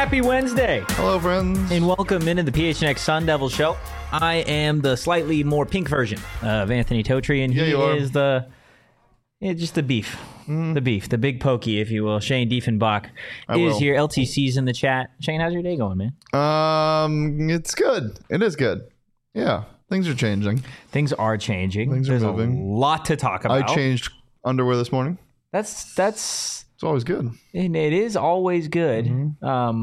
Happy Wednesday. Hello, friends. And welcome into the PHNX Sun Devil Show. I am the slightly more pink version of Anthony Totri, and he is just the beef. The beef, the big pokey, if you will. Shane Diefenbach is here. LTC's in the chat. Shane, how's your day going, man? It's good. It is good. Yeah, things are changing. Things are changing. Things are moving. A lot to talk about. I changed underwear this morning. That's It's always good. And it is always good. Mm-hmm.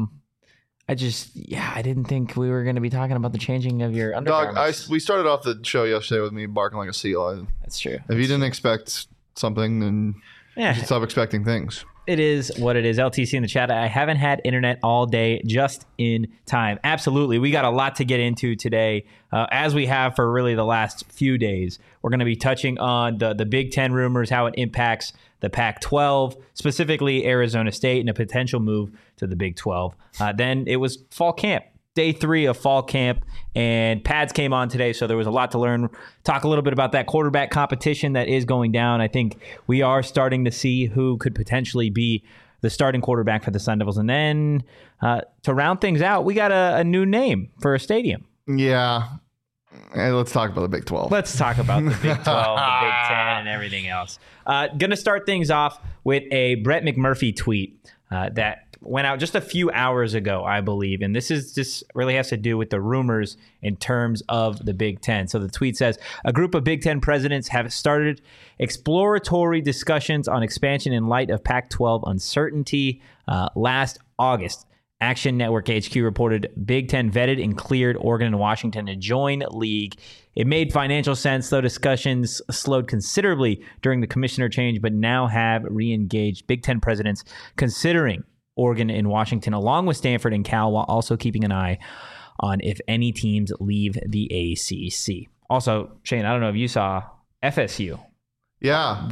I didn't think we were going to be talking about the changing of your undergarments. Dog, we started off the show yesterday with me barking like a seal. That's true. If you didn't expect something, then you should stop expecting things. It is what it is. LTC in the chat. I haven't had internet all day, just in time. Absolutely. We got a lot to get into today, as we have for really the last few days. We're going to be touching on the Big Ten rumors, how it impacts the Pac-12, specifically Arizona State, and a potential move to the Big 12. Then it was fall camp. Day 3 of fall camp, and pads came on today, so there was a lot to learn. Talk a little bit about that quarterback competition that is going down. I think we are starting to see who could potentially be the starting quarterback for the Sun Devils. And then to round things out, we got a new name for a stadium. Yeah. Hey, let's talk about the Big 12. Let's talk about the Big 12, the Big 10, and everything else. Going to start things off with a Brett McMurphy tweet that went out just a few hours ago, I believe. And this really has to do with the rumors in terms of the Big Ten. So the tweet says, a group of Big Ten presidents have started exploratory discussions on expansion in light of Pac-12 uncertainty. Last August, Action Network HQ reported Big Ten vetted and cleared Oregon and Washington to join league. It made financial sense, though discussions slowed considerably during the commissioner change, but now have re-engaged Big Ten presidents considering Oregon and Washington, along with Stanford and Cal, while also keeping an eye on if any teams leave the ACC. Also, Shane, I don't know if you saw FSU. Yeah.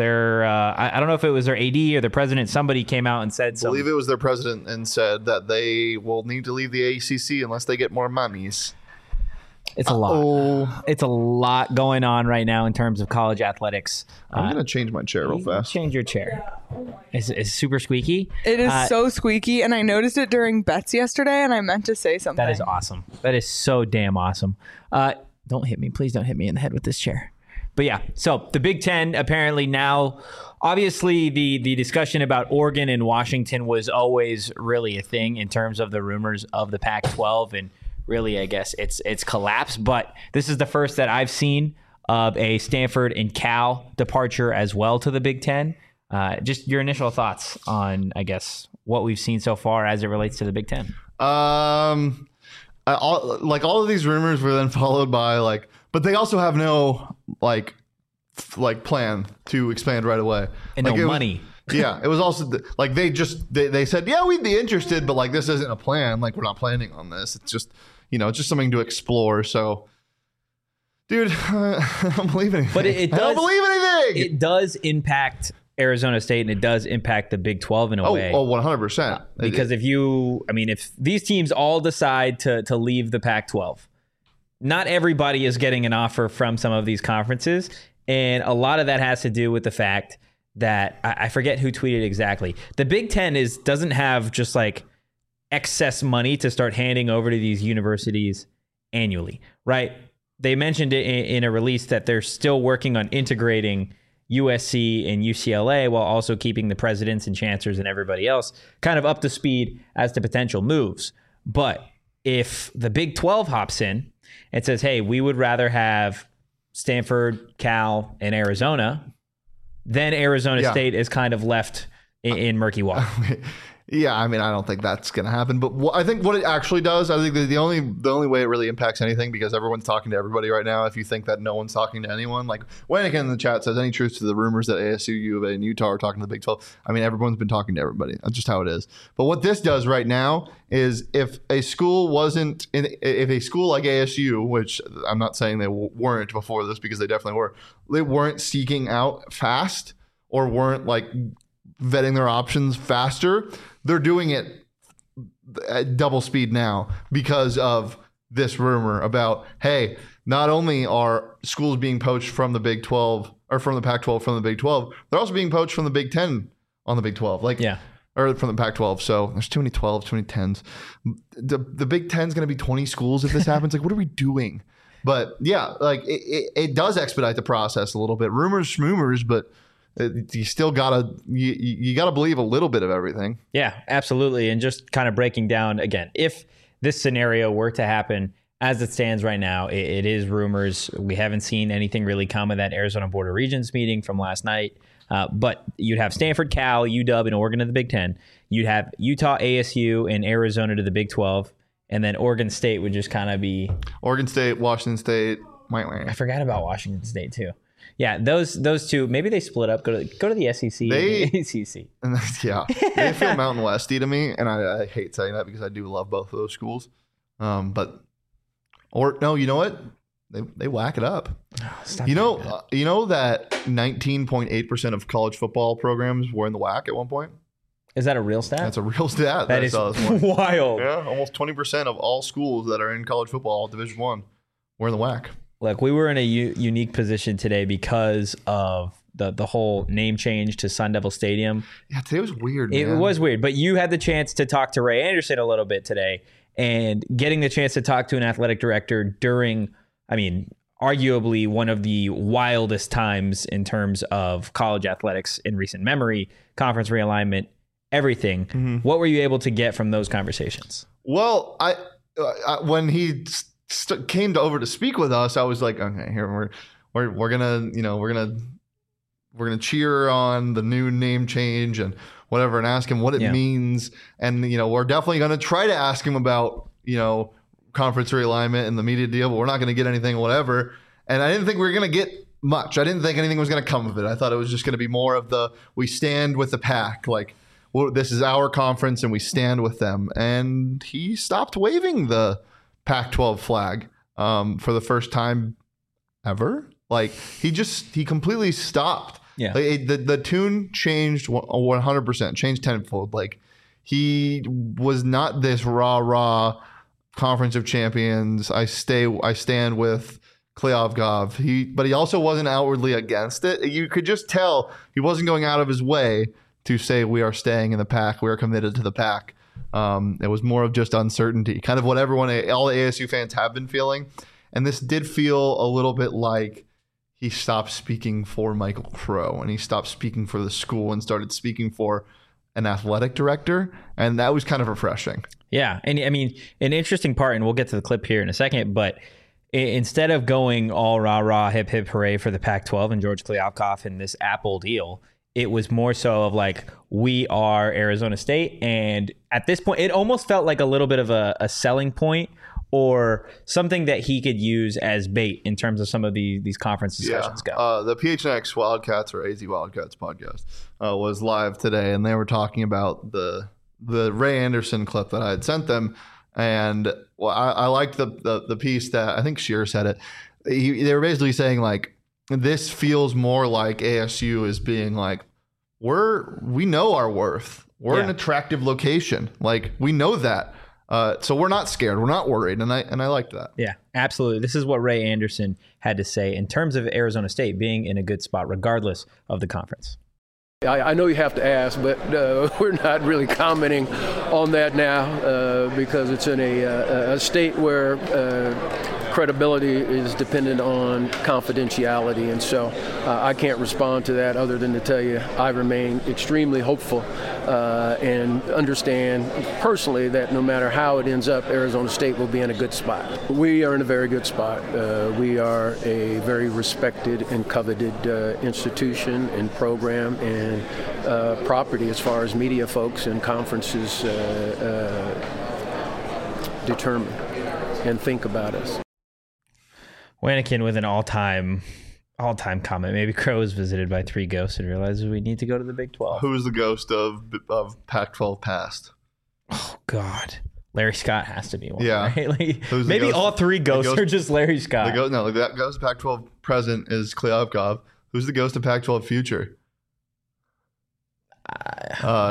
I don't know if it was their AD or the president. Somebody came out and said I believe it was their president and said that they will need to leave the ACC unless they get more monies. It's a lot. It's a lot going on right now in terms of college athletics. I'm going to change my chair real fast. Change your chair. It's super squeaky. It is so squeaky, and I noticed it during bets yesterday, and I meant to say something. That is awesome. That is so damn awesome. Don't hit me. Please don't hit me in the head with this chair. But yeah, so the Big Ten apparently now, obviously the discussion about Oregon and Washington was always really a thing in terms of the rumors of the Pac-12, and really, I guess it's collapsed. But this is the first that I've seen of a Stanford and Cal departure as well to the Big Ten. Just your initial thoughts on, I guess, what we've seen so far as it relates to the Big Ten. All of these rumors were then followed by but they also have no plan to expand right away and no money. Yeah, it was also they said, yeah, we'd be interested, but this isn't a plan. We're not planning on this. It's just just something to explore. So, dude, I don't believe anything. But I don't believe anything. It does impact Arizona State, and it does impact the Big 12 in a way. Oh, 100%. Because if these teams all decide to leave the Pac-12, not everybody is getting an offer from some of these conferences, and a lot of that has to do with the fact that I forget who tweeted exactly. The Big Ten doesn't have just excess money to start handing over to these universities annually, right? They mentioned it in a release that they're still working on integrating USC and UCLA while also keeping the presidents and chancellors and everybody else kind of up to speed as to potential moves. But if the Big 12 hops in and says, hey, we would rather have Stanford, Cal, and Arizona, then Arizona State is kind of left in murky water. Yeah, I don't think that's going to happen. But I think what it actually does, I think the only way it really impacts anything, because everyone's talking to everybody right now. If you think that no one's talking to anyone, Wanigan in the chat says, any truth to the rumors that ASU, U of A, and Utah are talking to the Big 12? Everyone's been talking to everybody. That's just how it is. But what this does right now is if a school like ASU, which I'm not saying they weren't before this, because they definitely were, they weren't seeking out fast or weren't vetting their options faster, they're doing it at double speed now because of this rumor about, hey, not only are schools being poached from the Big 12 or from the Pac-12 from the Big 12, they're also being poached from the Big 10 on the Big 12. or from the Pac-12. So there's too many 12s, too many 10s. The Big Ten is going to be 20 schools if this happens. Like, what are we doing? But yeah, like it does expedite the process a little bit. Rumors, schmoomers, but you still gotta you gotta believe a little bit of everything. Yeah, absolutely. And just kind of breaking down again, if this scenario were to happen as it stands right now, it is rumors. We haven't seen anything really come of that Arizona Board of Regents meeting from last night. But you'd have Stanford, Cal, UW, and Oregon to the Big Ten. You'd have Utah, ASU, and Arizona to the Big 12. And then Oregon State would just kind of be... Oregon State, Washington State. I forgot about Washington State, too. Yeah, those two, maybe they split up. Go to the SEC and the ACC. Yeah, they feel Mountain Westy to me, and I hate saying that because I do love both of those schools. You know what? They whack it up. You know that 19.8% of college football programs were in the WAC at one point? Is that a real stat? That's a real stat. That is wild. Yeah, almost 20% of all schools that are in college football, Division I, were in the WAC. Look, we were in a unique position today because of the whole name change to Sun Devil Stadium. Yeah, today was weird, man. It was weird, but you had the chance to talk to Ray Anderson a little bit today, and getting the chance to talk to an athletic director during, arguably one of the wildest times in terms of college athletics in recent memory, conference realignment, everything. Mm-hmm. What were you able to get from those conversations? Well, I when he came over to speak with us, I was like, okay, here we're gonna cheer on the new name change and whatever, and ask him what it means, and we're definitely gonna try to ask him about conference realignment and the media deal, but we're not gonna get anything, whatever. And I didn't think we were gonna get much. I didn't think anything was gonna come of it. I thought it was just gonna be more of we stand with the pack, like, well, this is our conference and we stand with them. And he stopped waving the Pac-12 flag for the first time ever. Like, he completely stopped. Yeah. Like, the tune changed 100%, changed tenfold. Like, he was not this rah conference of champions. I stand with Kliavkov. But he also wasn't outwardly against it. You could just tell he wasn't going out of his way to say we are staying in the pack. We are committed to the pack. It was more of just uncertainty, kind of what all the ASU fans have been feeling. And this did feel a little bit like he stopped speaking for Michael Crow and he stopped speaking for the school and started speaking for an athletic director. And that was kind of refreshing. Yeah. And an interesting part, and we'll get to the clip here in a second, but instead of going all rah, hip, hip, hooray for the Pac-12 and George Kliavkov and this Apple deal, it was more so of like, we are Arizona State. And at this point, it almost felt like a little bit of a selling point or something that he could use as bait in terms of some of these conference discussions go. The PHNX Wildcats or AZ Wildcats podcast was live today, and they were talking about the Ray Anderson clip that I had sent them. And I liked the piece that I think Shearer said it. They were basically saying, like, this feels more like ASU is being like, we know our worth. We're an attractive location. Like, we know that. So we're not scared. We're not worried. And I liked that. Yeah, absolutely. This is what Ray Anderson had to say in terms of Arizona State being in a good spot, regardless of the conference. I know you have to ask, but we're not really commenting on that now because it's in a state where credibility is dependent on confidentiality, and so I can't respond to that other than to tell you I remain extremely hopeful and understand personally that no matter how it ends up, Arizona State will be in a good spot. We are in a very good spot. We are a very respected and coveted institution and program and property as far as media folks and conferences determine and think about us. Wanikin with an all-time comment. Maybe Crow was visited by 3 ghosts and realizes we need to go to the Big 12. Who's the ghost of Pac-12 past? Oh, God. Larry Scott has to be one. Yeah. Right? Like, maybe all 3 ghosts are just Larry Scott. That ghost of Pac-12 present is Kliavkov. Who's the ghost of Pac-12 future?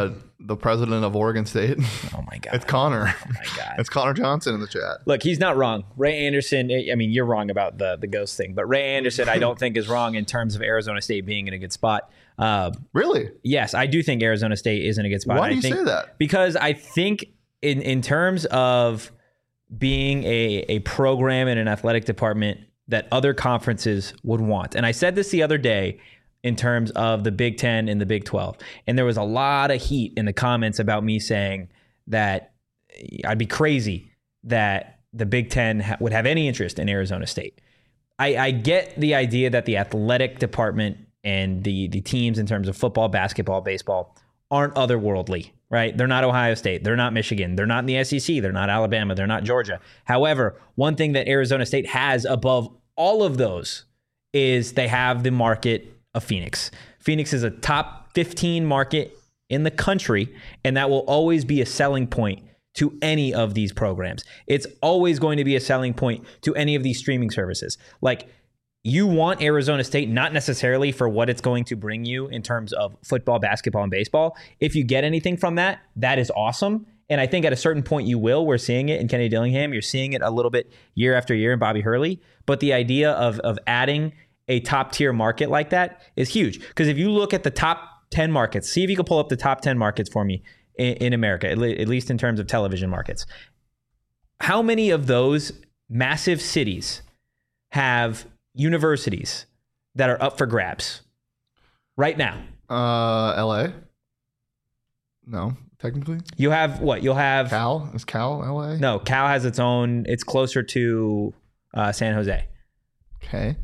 the president of Oregon State. Oh my God. It's Connor. Oh my God. It's Connor Johnson in the chat. Look, he's not wrong. Ray Anderson, I mean, you're wrong about the ghost thing, but Ray Anderson, I don't think is wrong in terms of Arizona State being in a good spot. Really? Yes, I do think Arizona State is in a good spot. Why do you say that? Because I think in terms of being a program in an athletic department that other conferences would want. And I said this the other day in terms of the Big Ten and the Big 12. And there was a lot of heat in the comments about me saying that I'd be crazy that the Big Ten would have any interest in Arizona State. I get the idea that the athletic department and the teams in terms of football, basketball, baseball aren't otherworldly, right? They're not Ohio State. They're not Michigan. They're not in the SEC. They're not Alabama. They're not Georgia. However, one thing that Arizona State has above all of those is they have the market of Phoenix. Phoenix is a top 15 market in the country, and that will always be a selling point to any of these programs. It's always going to be a selling point to any of these streaming services. Like, you want Arizona State, not necessarily for what it's going to bring you in terms of football, basketball, and baseball. If you get anything from that, that is awesome. And I think at a certain point you will. We're seeing it in Kenny Dillingham. You're seeing it a little bit year after year in Bobby Hurley. But the idea of adding a top tier market like that is huge. Because if you look at the top 10 markets, see if you can pull up the top 10 markets for me in America, at least in terms of television markets. How many of those massive cities have universities that are up for grabs right now? LA? No, technically. You have what? You'll have Cal? Is Cal LA? No, Cal has its own. It's closer to San Jose. Okay.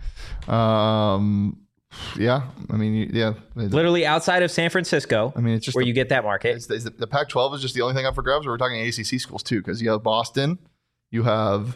Yeah. I mean, yeah. Literally outside of San Francisco. I mean, it's just where you get that market. The Pac-12 is just the only thing up for grabs. Or we're talking ACC schools too, because you have Boston, you have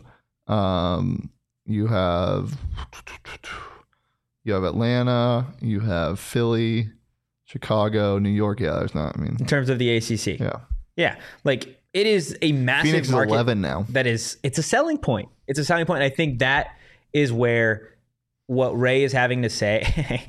Atlanta, you have Philly, Chicago, New York. Yeah, there's not. I mean, in terms of the ACC. Yeah. Like, it is a massive Phoenix is market. 11 now. It's a selling point. It's a selling point. And I think that is where what Ray is having to say,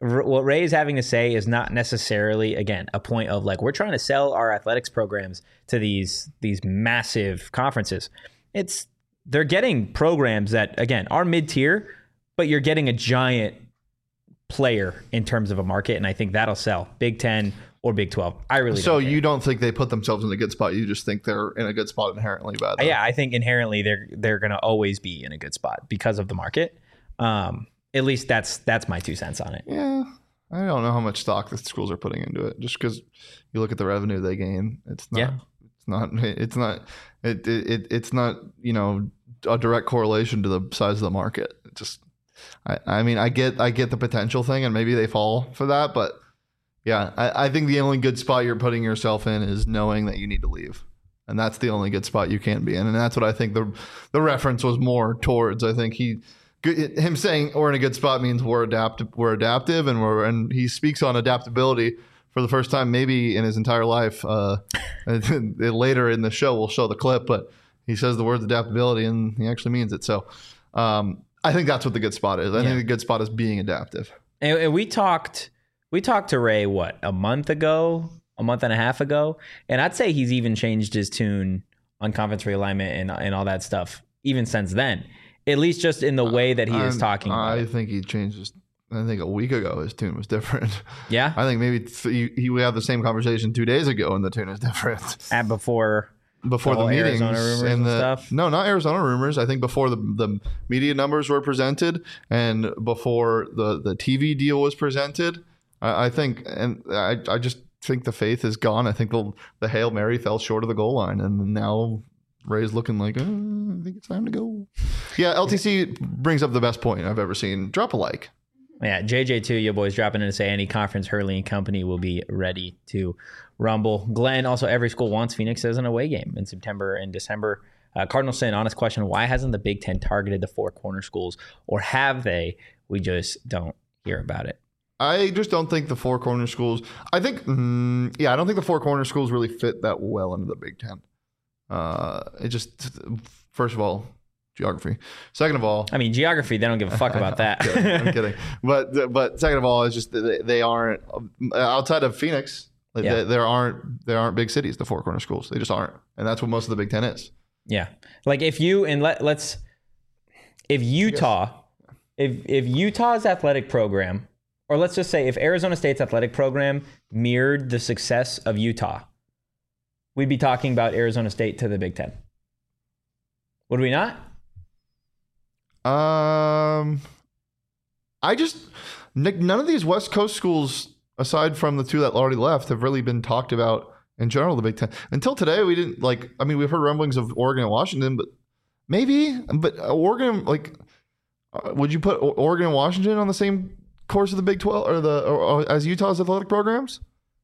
is not necessarily, again, a point of like, we're trying to sell our athletics programs to these massive conferences. They're getting programs that, again, are mid-tier, but you're getting a giant player in terms of a market. And I think that'll sell Big 10 or Big 12. I really So don't care. you don't think they put themselves in a good spot? You just think they're in a good spot inherently, by the way? Yeah, I think inherently they're going to always be in a good spot because of the market. At least that's my 2 cents on it. Yeah, I don't know how much stock the schools are putting into it. Just because you look at the revenue they gain, it's not, you know, a direct correlation to the size of the market. It just, I mean, I get the potential thing, and maybe they fall for that, but yeah, I think the only good spot you're putting yourself in is knowing that you need to leave. And that's the only good spot you can be in. And that's what I think the reference was more towards. I think him saying we're in a good spot means we're adaptive, and he speaks on adaptability for the first time maybe in his entire life. Later in the show, we'll show the clip, but he says the word adaptability, and he actually means it. So I think that's what the good spot is. I think the good spot is being adaptive. And we talked to Ray, a month and a half ago, and I'd say he's even changed his tune on conference realignment and all that stuff even since then. At least just in the way that he is talking about it. I think he changed his. I think a week ago his tune was different. Yeah? I think maybe we had the same conversation 2 days ago and the tune is different. And before the meetings Arizona rumors and stuff? No, not Arizona rumors. I think before the media numbers were presented and before the TV deal was presented, I think, and I just think the faith is gone. I think the Hail Mary fell short of the goal line, and now Ray's looking like, I think it's time to go. Yeah, LTC brings up the best point I've ever seen. Drop a like. Yeah, JJ2, your boys dropping in to say any conference Hurley and company will be ready to rumble. Glenn, also every school wants Phoenix as an away game in September and December. Cardinal Sin, honest question, why hasn't the Big Ten targeted the 4 corner schools, or have they? We just don't hear about it. I just don't think the 4 corner schools, I think, I don't think the 4 corner schools really fit that well into the Big Ten. It just, first of all, geography. Second of all, I mean, geography, they don't give a fuck about that. I'm kidding. But second of all, it's just they aren't outside of Phoenix. Like, Yeah. there aren't big cities, the Four Corner schools. They just aren't, and that's what most of the Big Ten is. Yeah. Like if you and if Utah's athletic program, or let's just say if Arizona State's athletic program mirrored the success of Utah, we'd be talking about Arizona State to the Big Ten. Would we not? None of these West Coast schools, aside from the two that already left, have really been talked about in general, the Big Ten. Until today, we didn't we've heard rumblings of Oregon and Washington, but Oregon, would you put Oregon and Washington on the same course of the Big 12 or as Utah's athletic programs?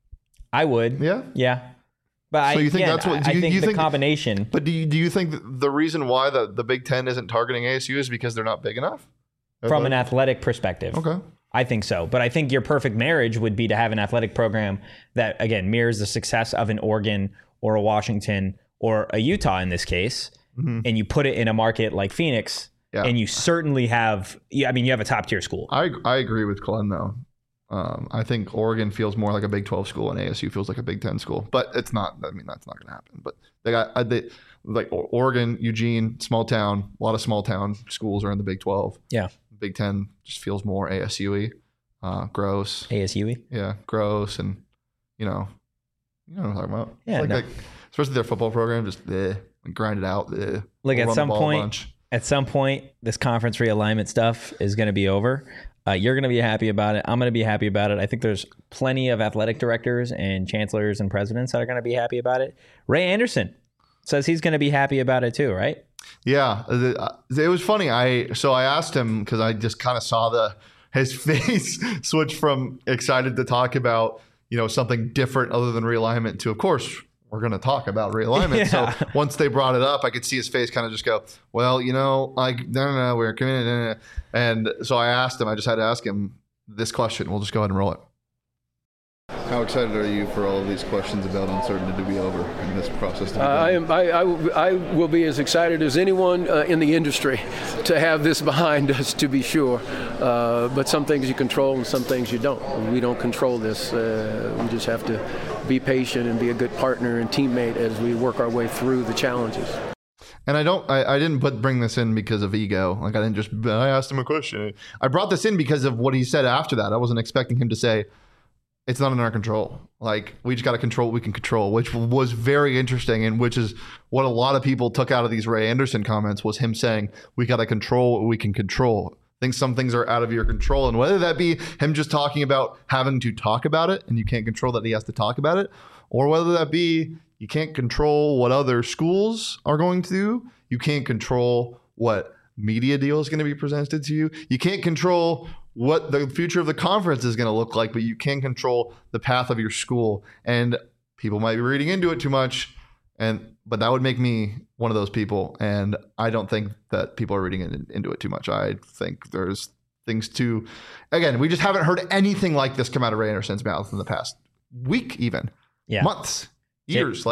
I would. Yeah. Yeah. But so you think that's what I think the combination. But do you think that the reason why the Big Ten isn't targeting ASU is because they're not big enough? From an athletic perspective. Okay. I think so. But I think your perfect marriage would be to have an athletic program that, again, mirrors the success of an Oregon or a Washington or a Utah in this case. Mm-hmm. And you put it in a market like Phoenix. Yeah. And you certainly have, you have a top tier school. I agree with Glenn, though. I think Oregon feels more like a Big 12 school and ASU feels like a Big 10 school. But it's not. I mean, that's not going to happen. But they like Oregon, Eugene, small town. A lot of small town schools are in the Big 12. Yeah. Big 10 just feels more ASU-y, gross. ASU-y? Yeah, gross. And, you know what I'm talking about. Yeah, like, especially their football program, just grind it out. Look, at some point, this conference realignment stuff is going to be over. You're going to be happy about it. I'm going to be happy about it. I think there's plenty of athletic directors and chancellors and presidents that are going to be happy about it. Ray Anderson says he's going to be happy about it too, right? Yeah, it was funny. I asked him because I just kind of saw his face switch from excited to talk about something different other than realignment to, of course, we're going to talk about realignment. Yeah. So once they brought it up, I could see his face kind of just go, well, no, we're committed. And so I asked him. I just had to ask him this question. We'll just go ahead and roll it. How excited are you for all of these questions about uncertainty to be over in this process? I will be as excited as anyone in the industry to have this behind us, to be sure. But some things you control and some things you don't. We don't control this. We just have to be patient and be a good partner and teammate as we work our way through the challenges. And I didn't bring this in because of ego. I asked him a question. I brought this in because of what he said after that. I wasn't expecting him to say, it's not in our control. We just got to control what we can control, which was very interesting, and which is what a lot of people took out of these Ray Anderson comments was him saying, we got to control what we can control. I think some things are out of your control, and whether that be him just talking about having to talk about it, and you can't control that he has to talk about it, or whether that be you can't control what other schools are going to do, you can't control what media deal is going to be presented to you, you can't control what the future of the conference is going to look like, but you can control the path of your school. And people might be reading into it too much, but that would make me one of those people. And I don't think that people are reading into it too much. I think there's things to, again, we just haven't heard anything like this come out of Ray Anderson's mouth in the past week, even months, years.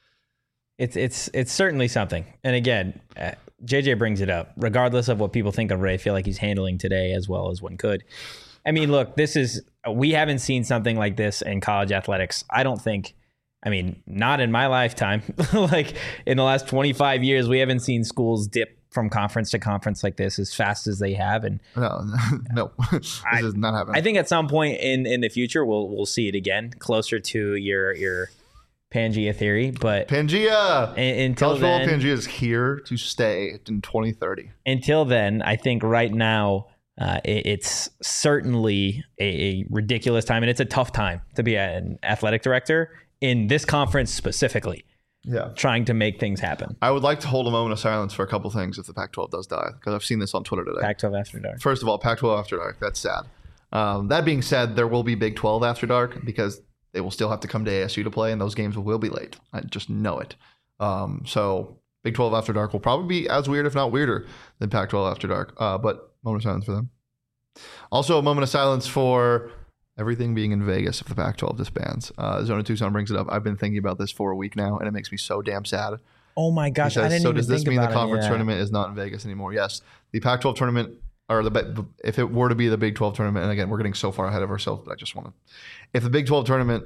It's certainly something. And again, JJ brings it up. Regardless of what people think of Ray, I feel like he's handling today as well as one could. I mean, look, we haven't seen something like this in college athletics. I don't think, not in my lifetime. In the last 25 years, we haven't seen schools dip from conference to conference like this as fast as they have. And no, this is not happening. I think at some point in the future, we'll see it again, closer to your Pangea theory, but Pangea until then, Pangea is here to stay in 2030. Until then, I think right now it's certainly a ridiculous time, and it's a tough time to be an athletic director in this conference specifically. Yeah, trying to make things happen. I would like to hold a moment of silence for a couple things if the Pac-12 does die, because I've seen this on Twitter today. Pac-12 after dark. First of all, Pac-12 after dark. That's sad. That being said, there will be Big 12 after dark because they will still have to come to ASU to play, and those games will be late. I just know it. So Big 12 after dark will probably be as weird, if not weirder, than Pac-12 after dark. But moment of silence for them. Also, a moment of silence for everything being in Vegas if the Pac-12 disbands. Zona Tucson brings it up. I've been thinking about this for a week now, and it makes me so damn sad. Oh my gosh, I didn't even think about it. So does this mean the conference tournament is not in Vegas anymore? Yes. The Pac-12 tournament, or if it were to be the Big 12 tournament, and again, we're getting so far ahead of ourselves, but I just want to, if the Big 12 tournament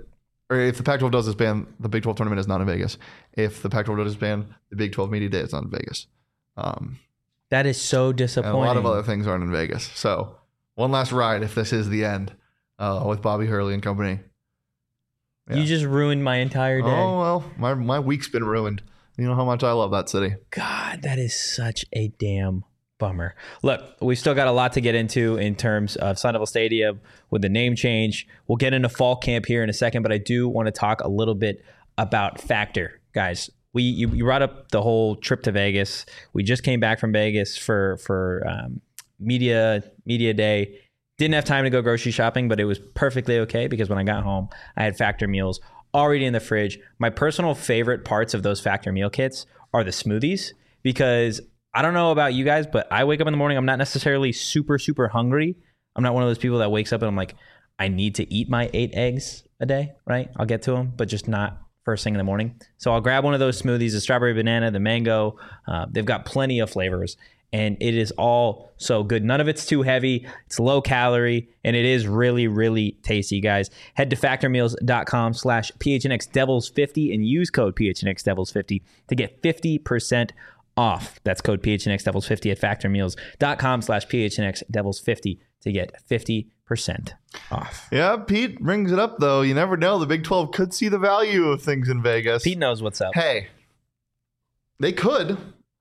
or if the Pac-12 does disband, the Big 12 tournament is not in Vegas. If the Pac-12 does disband, the Big 12 Media Day is not in Vegas. That is so And disappointing. a lot of other things aren't in Vegas. So one last ride if this is the end with Bobby Hurley and company. Yeah. You just ruined my entire day. Oh, well, my week's been ruined. You know how much I love that city. God, that is such a damn bummer. Look, we've still got a lot to get into in terms of Sun Devil Stadium with the name change. We'll get into fall camp here in a second, but I do want to talk a little bit about Factor. Guys, you brought up the whole trip to Vegas. We just came back from Vegas for media day. Didn't have time to go grocery shopping, but it was perfectly okay because when I got home, I had Factor meals already in the fridge. My personal favorite parts of those Factor meal kits are the smoothies because I don't know about you guys, but I wake up in the morning, I'm not necessarily super, super hungry. I'm not one of those people that wakes up and I'm like, I need to eat my 8 eggs a day, right? I'll get to them, but just not first thing in the morning. So I'll grab one of those smoothies, the strawberry banana, the mango. They've got plenty of flavors. And it is all so good. None of it's too heavy. It's low calorie. And it is really, really tasty, guys. Head to factormeals.com/PHNXDevils50 and use code PHNXDevils50 to get 50% off. That's code PHNXDevils50 at factormeals.com/PHNXDevils50 to get 50% off. Yeah, Pete brings it up, though. You never know. The Big 12 could see the value of things in Vegas. Pete knows what's up. Hey, they could.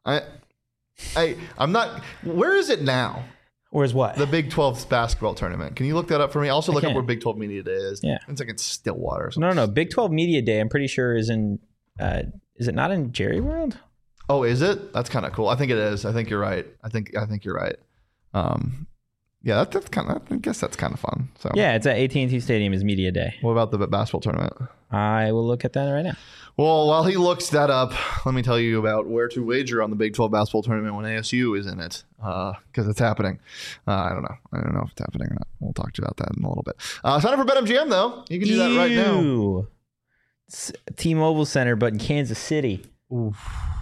I'm not. Where is it now? Where's what? The Big 12 basketball tournament. Can you look that up for me? Also, look up can. where Big 12 Media Day is. Yeah. It's like in Stillwater or something. No. Big 12 Media Day, I'm pretty sure is in, is it not in Jerry World? Oh, is it? That's kind of cool. I think it is. I think you're right. I think you're right. Yeah, that's kind of. I guess that's kind of fun. So Yeah, it's at AT&T Stadium is Media Day. What about the basketball tournament? I will look at that right now. Well, while he looks that up, let me tell you about where to wager on the Big 12 basketball tournament when ASU is in it, because it's happening. I don't know if it's happening or not. We'll talk to you about that in a little bit. Sign up for BetMGM, though. You can do that right now. It's T-Mobile Center, but in Kansas City. Oof.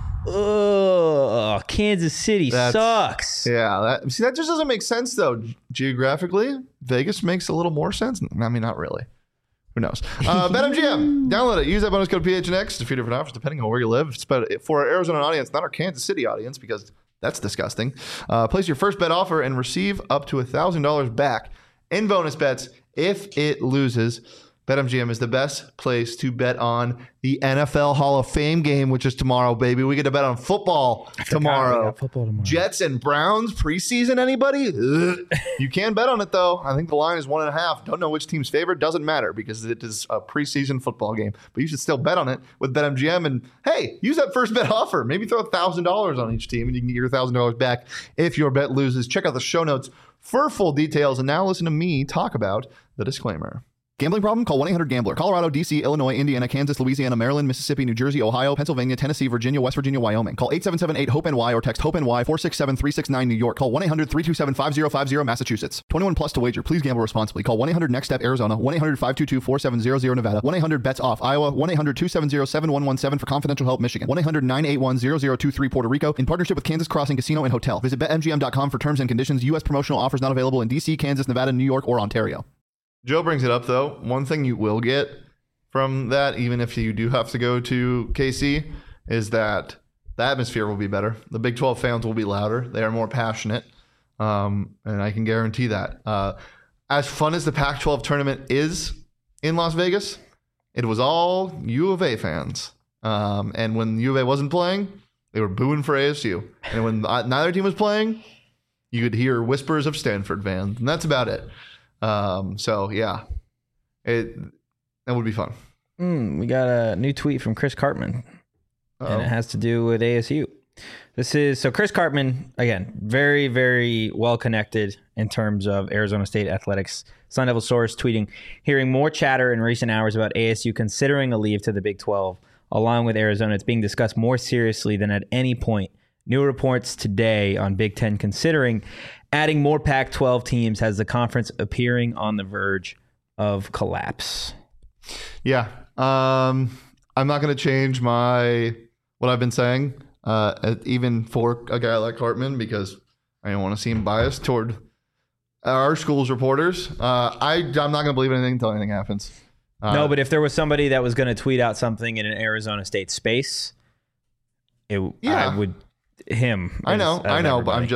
Ugh, Kansas City sucks. Yeah, that just doesn't make sense, though. Geographically, Vegas makes a little more sense. I mean, not really. Who knows? BetMGM. Download it. Use that bonus code PHNX to 2 different offers depending on where you live. It's for our Arizona audience, not our Kansas City audience, because that's disgusting. Place your first bet offer and receive up to $1,000 back in bonus bets if it loses. BetMGM is the best place to bet on the NFL Hall of Fame game, which is tomorrow, baby. We get to bet on football tomorrow. Jets and Browns preseason, anybody? Ugh. You can bet on it, though. I think the line is 1.5. Don't know which team's favorite. Doesn't matter because it is a preseason football game. But you should still bet on it with BetMGM. And, hey, use that first bet offer. Maybe throw $1,000 on each team, and you can get your $1,000 back if your bet loses. Check out the show notes for full details. And now listen to me talk about the disclaimer. Gambling problem? Call 1-800-GAMBLER. Colorado, D.C., Illinois, Indiana, Kansas, Louisiana, Maryland, Mississippi, New Jersey, Ohio, Pennsylvania, Tennessee, Virginia, West Virginia, Wyoming. Call 877-8-HOPE-NY or text HOPE-NY 467-369 New York. Call 1-800-327-5050 Massachusetts. 21 plus to wager. Please gamble responsibly. Call 1-800-NEXT-STEP Arizona. 1-800-522-4700 Nevada. 1-800-BETS-OFF Iowa. 1-800-270-7117 for confidential help Michigan. 1-800-981-0023 Puerto Rico. In partnership with Kansas Crossing Casino and Hotel. Visit BetMGM.com for terms and conditions. U.S. promotional offers not available in D.C., Kansas, Nevada, New York, or Ontario. Joe brings it up, though. One thing you will get from that, even if you do have to go to KC, is that the atmosphere will be better. The Big 12 fans will be louder. They are more passionate, and I can guarantee that. As fun as the Pac-12 tournament is in Las Vegas, it was all U of A fans. And when U of A wasn't playing, they were booing for ASU. And when neither team was playing, you could hear whispers of Stanford fans, and that's about it. So yeah, that would be fun. We got a new tweet from Chris Cartman, and it has to do with ASU. So Chris Cartman, again, very, very well connected in terms of Arizona State athletics. Sun Devil source tweeting, hearing more chatter in recent hours about ASU considering a leave to the Big 12, along with Arizona. It's being discussed more seriously than at any point. New reports today on Big Ten considering adding more Pac-12 teams has the conference appearing on the verge of collapse. Yeah. I'm not going to change what I've been saying, even for a guy like Hartman, because I don't want to seem biased toward our school's reporters. I'm not going to believe anything until anything happens. No, but if there was somebody that was going to tweet out something in an Arizona State space, I would him. I know, but everybody.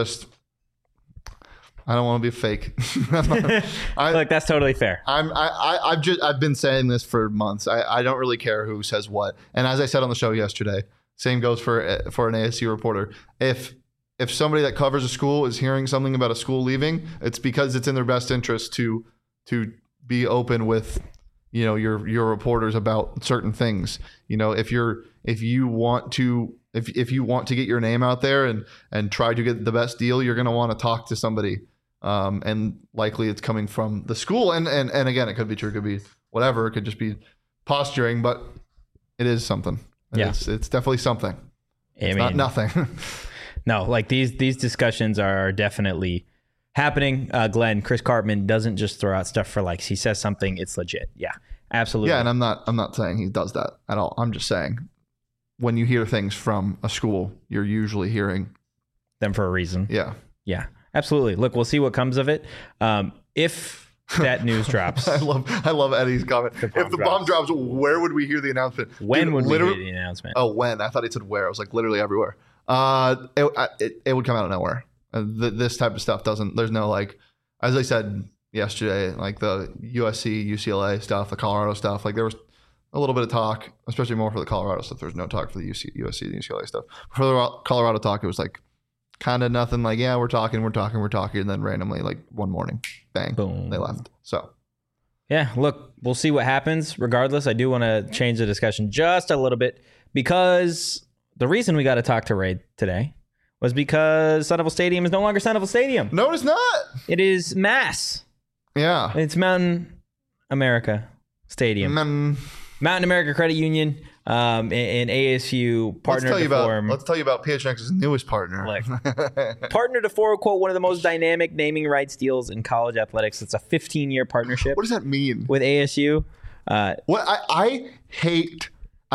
I don't want to be fake. Look, that's totally fair. I've been saying this for months. I don't really care who says what. And as I said on the show yesterday, same goes for an ASU reporter. If somebody that covers a school is hearing something about a school leaving, it's because it's in their best interest to be open with, your reporters about certain things. If you want to get your name out there and try to get the best deal, you're going to want to talk to somebody. And likely it's coming from the school. And again, it could be true, it could be whatever. It could just be posturing, but it is something. It's definitely something. It's not nothing. No, like these discussions are definitely happening. Glenn, Chris Cartman doesn't just throw out stuff for likes. He says something, it's legit. Yeah, absolutely. Yeah, and I'm not saying he does that at all. I'm just saying when you hear things from a school, you're usually hearing them for a reason. Yeah. Yeah, absolutely. Look, we'll see what comes of it. If that news drops. I love Eddie's comment. If the bomb drops, where would we hear the announcement? When would we hear the announcement? Oh, when? I thought he said where. I was like literally everywhere. It would come out of nowhere. This type of stuff there's no, like, as I said yesterday, like the USC, UCLA stuff, the Colorado stuff, like there was a little bit of talk, especially more for the Colorado stuff. There's no talk for the USC and UCLA stuff. For the Colorado talk, it was like kind of nothing, like, yeah, we're talking. And then randomly, like one morning, bang, boom, they left. So. Yeah, look, we'll see what happens. Regardless, I do want to change the discussion just a little bit because the reason we got to talk to Ray today was because Sun Devil Stadium is no longer Sun Devil Stadium. No, it's not. It is MASS. Yeah. It's Mountain America Stadium. Mountain America Credit Union and ASU partnered to form. Let's tell you about PHNX's newest partner. Partnered to form, quote, one of the most dynamic naming rights deals in college athletics. It's a 15-year partnership. What does that mean? With ASU. What I hate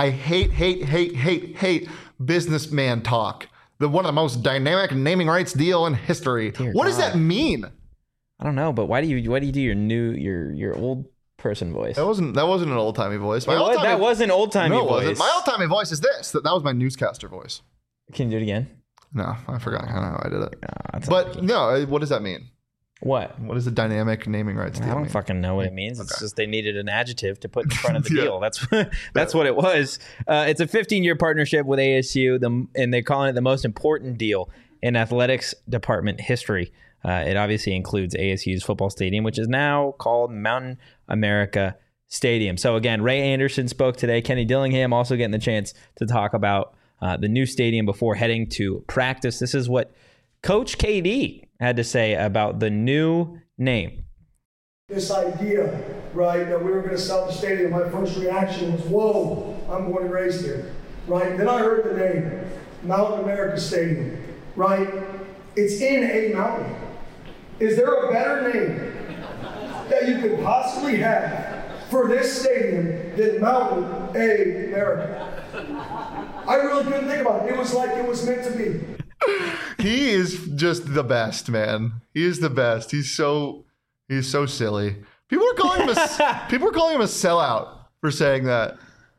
businessman talk. One of the most dynamic naming rights deal in history. What does that mean? I don't know, but why do you do your old person voice? That wasn't an old timey voice. That was an old timey voice. My old timey voice is this. That was my newscaster voice. Can you do it again? No, I forgot. I don't know how I did it. But no, what does that mean? What is the dynamic naming rights deal? I don't fucking know what it means. It's just they needed an adjective to put in front of the deal. That's what it was. It's a 15-year partnership with ASU, and they're calling it the most important deal in athletics department history. It obviously includes ASU's football stadium, which is now called Mountain America Stadium. So again, Ray Anderson spoke today. Kenny Dillingham also getting the chance to talk about the new stadium before heading to practice. This is what Coach KD had to say about the new name. This idea, right, that we were going to sell the stadium, my first reaction was, whoa, I'm born and raised here, right? Then I heard the name, Mountain America Stadium, right? It's in a mountain. Is there a better name that you could possibly have for this stadium than Mountain America? I really couldn't think about it. It was like it was meant to be. He is just the best, man. He is the best. He's so silly. People are calling him a sellout for saying that.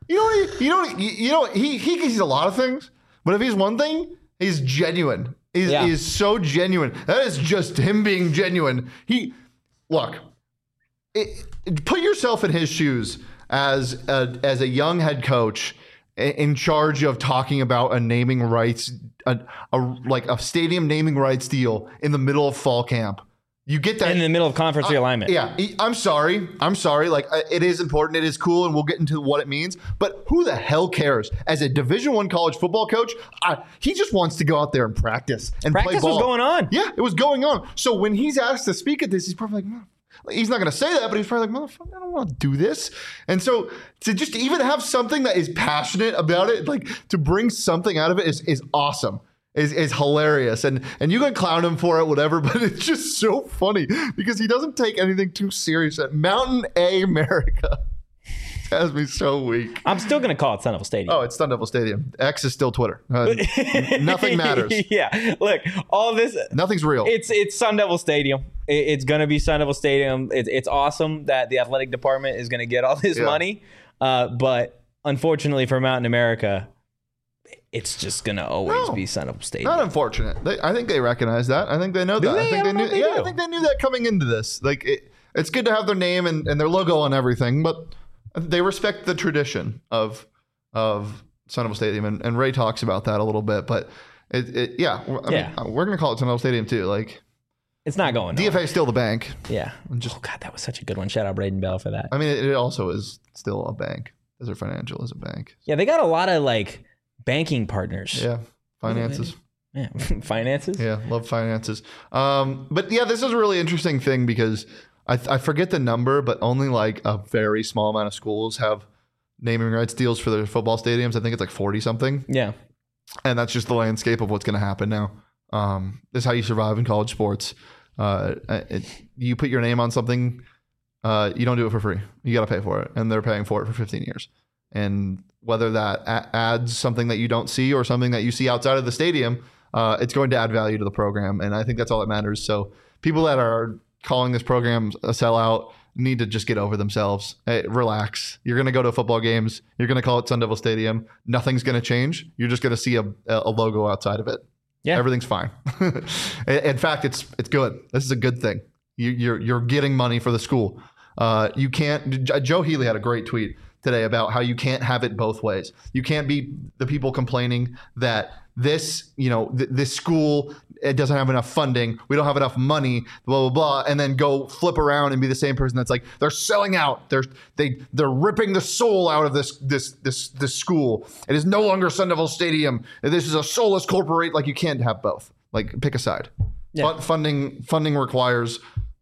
He's a lot of things, but if he's one thing, he's genuine. He's so genuine. That is just him being genuine. Put yourself in his shoes as a young head coach in charge of talking about a naming rights, like a stadium naming rights deal in the middle of fall camp. You get that in the middle of conference realignment. Yeah, I'm sorry. Like, it is important. It is cool, and we'll get into what it means. But who the hell cares? As a Division I college football coach, he just wants to go out there and practice and play ball. Practice was going on. Yeah, it was going on. So when he's asked to speak at this, he's probably like, he's not going to say that, but he's probably like, motherfucker, I don't want to do this. And so to just even have something that is passionate about it, like to bring something out of it is awesome. Is hilarious. And you can clown him for it, whatever, but it's just so funny because he doesn't take anything too serious at Mountain America. has me so weak. I'm still going to call it Sun Devil Stadium. Oh, it's Sun Devil Stadium. X is still Twitter. Nothing matters. Yeah. Look, all this. Nothing's real. It's Sun Devil Stadium. It's going to be Sun Devil Stadium. It's awesome that the athletic department is going to get all this money. But unfortunately for Mountain America, it's just going to always be Sun Devil Stadium. Not unfortunate. I think they recognize that. I think they know that. I think they knew. I think they knew that coming into this. Like it's good to have their name and their logo on everything, but they respect the tradition of Sun Devil Stadium, and Ray talks about that a little bit. But I mean, we're going to call it Sun Devil Stadium too. Like it's not going. DFA is still the bank. Yeah. Oh God, that was such a good one. Shout out Braden Bell for that. I mean, it also is still a bank. Desert Financial is a bank. Yeah, they got a lot of like banking partners. Yeah, finances. Yeah, finances. Yeah, love finances. But yeah, this is a really interesting thing because I forget the number, but only like a very small amount of schools have naming rights deals for their football stadiums. I think it's like 40 something. Yeah, and that's just the landscape of what's going to happen now. This is how you survive in college sports. You put your name on something. You don't do it for free. You got to pay for it, and they're paying for it for 15 years. And whether that adds something that you don't see or something that you see outside of the stadium, it's going to add value to the program. And I think that's all that matters. So people that are calling this program a sellout need to just get over themselves. Hey, relax. You're going to go to football games. You're going to call it Sun Devil Stadium. Nothing's going to change. You're just going to see a logo outside of it. Yeah, everything's fine. In fact, it's good. This is a good thing. You're getting money for the school. You can't. Joe Healy had a great tweet today about how you can't have it both ways. You can't be the people complaining that this school, it doesn't have enough funding. We don't have enough money, blah, blah, blah. And then go flip around and be the same person that's like, they're selling out. They're ripping the soul out of this school. It is no longer Sun Devil Stadium. This is a soulless corporate. Like you can't have both. Like pick a side. Yeah. Funding requires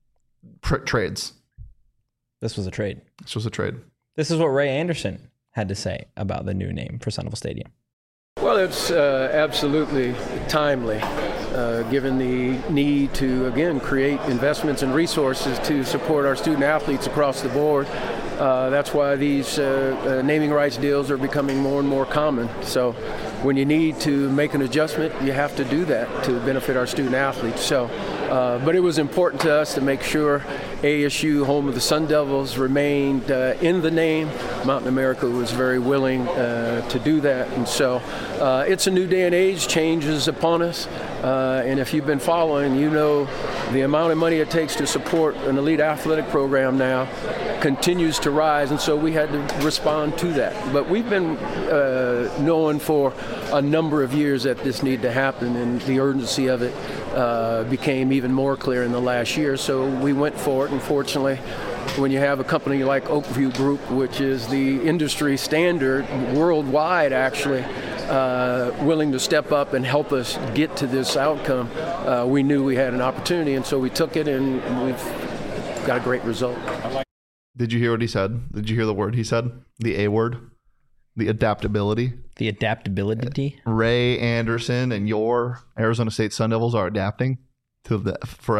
trades. This was a trade. This is what Ray Anderson had to say about the new name for Sun Devil Stadium. Well, it's absolutely timely, given the need to, again, create investments and resources to support our student athletes across the board. That's why these naming rights deals are becoming more and more common. So when you need to make an adjustment, you have to do that to benefit our student athletes. So, but it was important to us to make sure ASU, home of the Sun Devils, remained in the name. Mountain America was very willing to do that. And so it's a new day and age, change is upon us. And if you've been following, you know the amount of money it takes to support an elite athletic program now continues to rise, and so we had to respond to that. But we've been knowing for a number of years that this needed to happen, and the urgency of it became even more clear in the last year, so we went for it. And fortunately, when you have a company like Oakview Group, which is the industry standard worldwide actually, willing to step up and help us get to this outcome, we knew we had an opportunity, and so we took it, and we've got a great result. Did you hear what he said? Did you hear the word he said? The A word? The adaptability? The adaptability? Ray Anderson and your Arizona State Sun Devils are adapting to the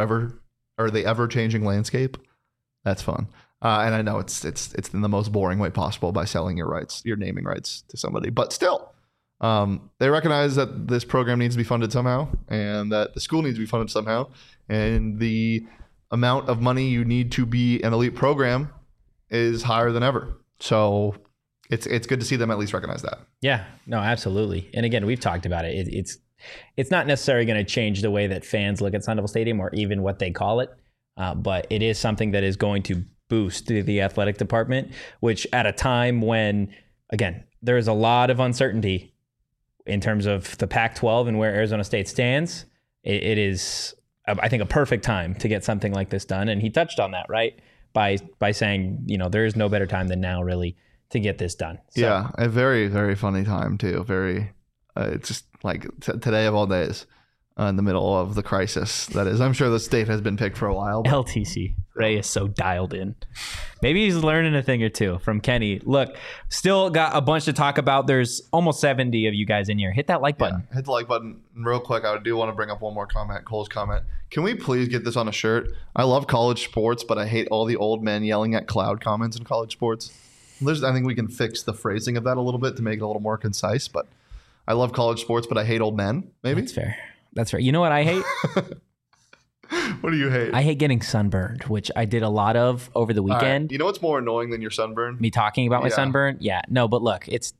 ever-changing landscape. That's fun. And I know it's in the most boring way possible by selling your naming rights to somebody. But still, they recognize that this program needs to be funded somehow, and that the school needs to be funded somehow, and the amount of money you need to be an elite program is higher than ever. So it's good to see them at least recognize that. Yeah, no, absolutely. And again, we've talked about it. It's not necessarily going to change the way that fans look at Sun Devil Stadium or even what they call it, but it is something that is going to boost the athletic department, which at a time when, again, there is a lot of uncertainty in terms of the Pac-12 and where Arizona State stands, it is, I think, a perfect time to get something like this done. And he touched on that, right? By saying, there is no better time than now, really, to get this done. So, yeah, a very, very funny time, too. Very, it's just like today of all days, in the middle of the crisis that is. I'm sure the state has been picked for a while. LTC. Ray is so dialed in. Maybe he's learning a thing or two from Kenny. Look, still got a bunch to talk about. There's almost 70 of you guys in here. Hit that like button. Yeah, hit the like button. Real quick, I do want to bring up one more comment, Cole's comment. Can we please get this on a shirt? I love college sports, but I hate all the old men yelling at cloud comments in college sports. I think we can fix the phrasing of that a little bit to make it a little more concise. But I love college sports, but I hate old men. Maybe That's fair. That's fair. You know what I hate? What do you hate? I hate getting sunburned, which I did a lot of over the All right. weekend. You know what's more annoying than your sunburn? Me talking about my Yeah. sunburn? Yeah. No, but look, it's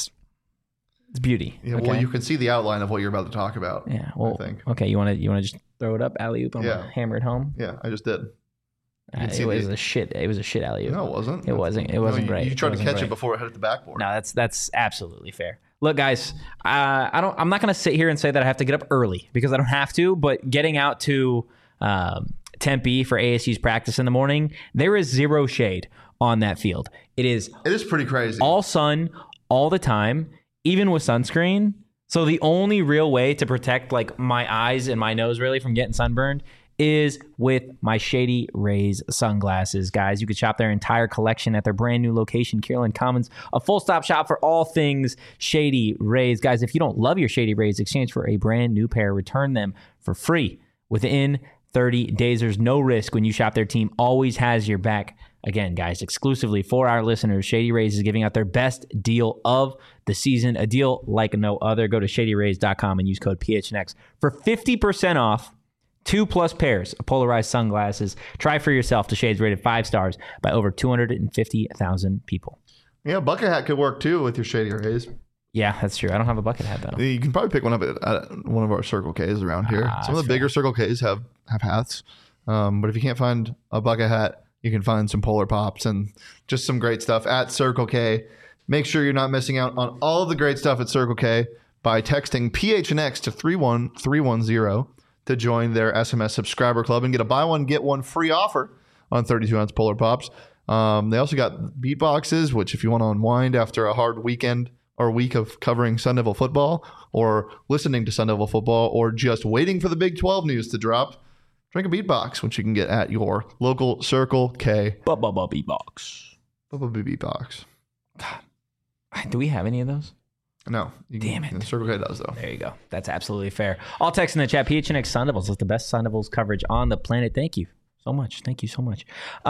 beauty. Yeah, okay? well, you can see the outline of what you're about to talk about. Yeah. Well, I think. okay. You want to just throw it up, alley oop? I'm Yeah. gonna hammer it home. Yeah, I just did. can see It was the- a shit. It was a shit alley oop. No, it wasn't. It wasn't. It wasn't great. You tried It to wasn't catch great. it before it hit the backboard. No, that's absolutely fair. Look, guys, I'm not gonna sit here and say that I have to get up early because I don't have to. But getting out to Tempe for ASU's practice in the morning, there is zero shade on that field. It is It is pretty crazy. all sun all the time, even with sunscreen. So the only real way to protect like my eyes and my nose really from getting sunburned is with my Shady Rays sunglasses. Guys, you can shop their entire collection at their brand new location, Kierland Commons, a full-stop shop for all things Shady Rays. Guys, if you don't love your Shady Rays, exchange for a brand new pair, return them for free within 30 days. There's no risk when you shop. Their team always has your back. Again, guys, exclusively for our listeners, Shady Rays is giving out their best deal of the season, a deal like no other. Go to shadyrays.com and use code PHNX for 50% off 2+ pairs of polarized sunglasses. Try for yourself. The shades rated 5 stars by over 250,000 people. Yeah, bucket hat could work too with your Shady Rays. Yeah, that's true. I don't have a bucket hat though. You can probably pick one up at one of our Circle K's around here. Some of the bigger Circle K's have hats. But if you can't find a bucket hat, you can find some Polar Pops and just some great stuff at Circle K. Make sure you're not missing out on all of the great stuff at Circle K by texting PHNX to 31310 to join their SMS subscriber club and get a buy one, get one free offer on 32-ounce Polar Pops. They also got beat boxes, which if you want to unwind after a hard weekend or week of covering Sun Devil football or listening to Sun Devil football or just waiting for the Big 12 news to drop, drink a beat box, which you can get at your local Circle K. Beat box. Beat box. Do we have any of those? No. Damn it. Circle K does, though. There you go. That's absolutely fair. I'll text in the chat. PHNX Sun Devils is the best Sun Devils coverage on the planet. Thank you so much. Thank you so much.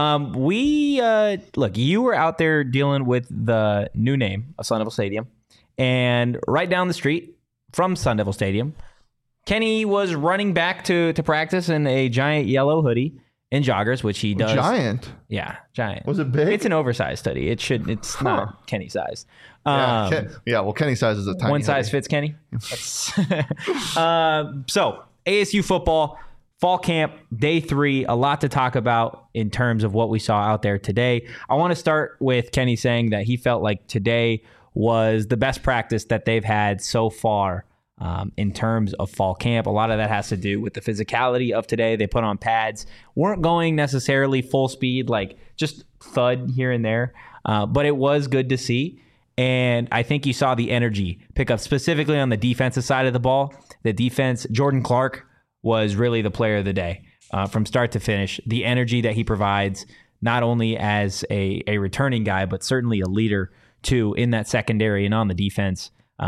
Look, you were out there dealing with the new name of Sun Devil Stadium, and right down the street from Sun Devil Stadium, Kenny was running back to practice in a giant yellow hoodie and joggers, which he does. Giant? Yeah, giant. Was it big? It's an oversized hoodie. It's not Kenny size. Well, Kenny size is a tiny One size hoodie. fits Kenny. So ASU football, fall camp, day 3, a lot to talk about in terms of what we saw out there today. I want to start with Kenny saying that he felt like today was the best practice that they've had so far in terms of fall camp. A lot of that has to do with the physicality of today. They put on pads, weren't going necessarily full speed, like just thud here and there, but it was good to see. And I think you saw the energy pick up specifically on the defensive side of the ball. The defense, Jordan Clark was really the player of the day from start to finish. The energy that he provides, not only as a returning guy, but certainly a leader too in that secondary and on the defense.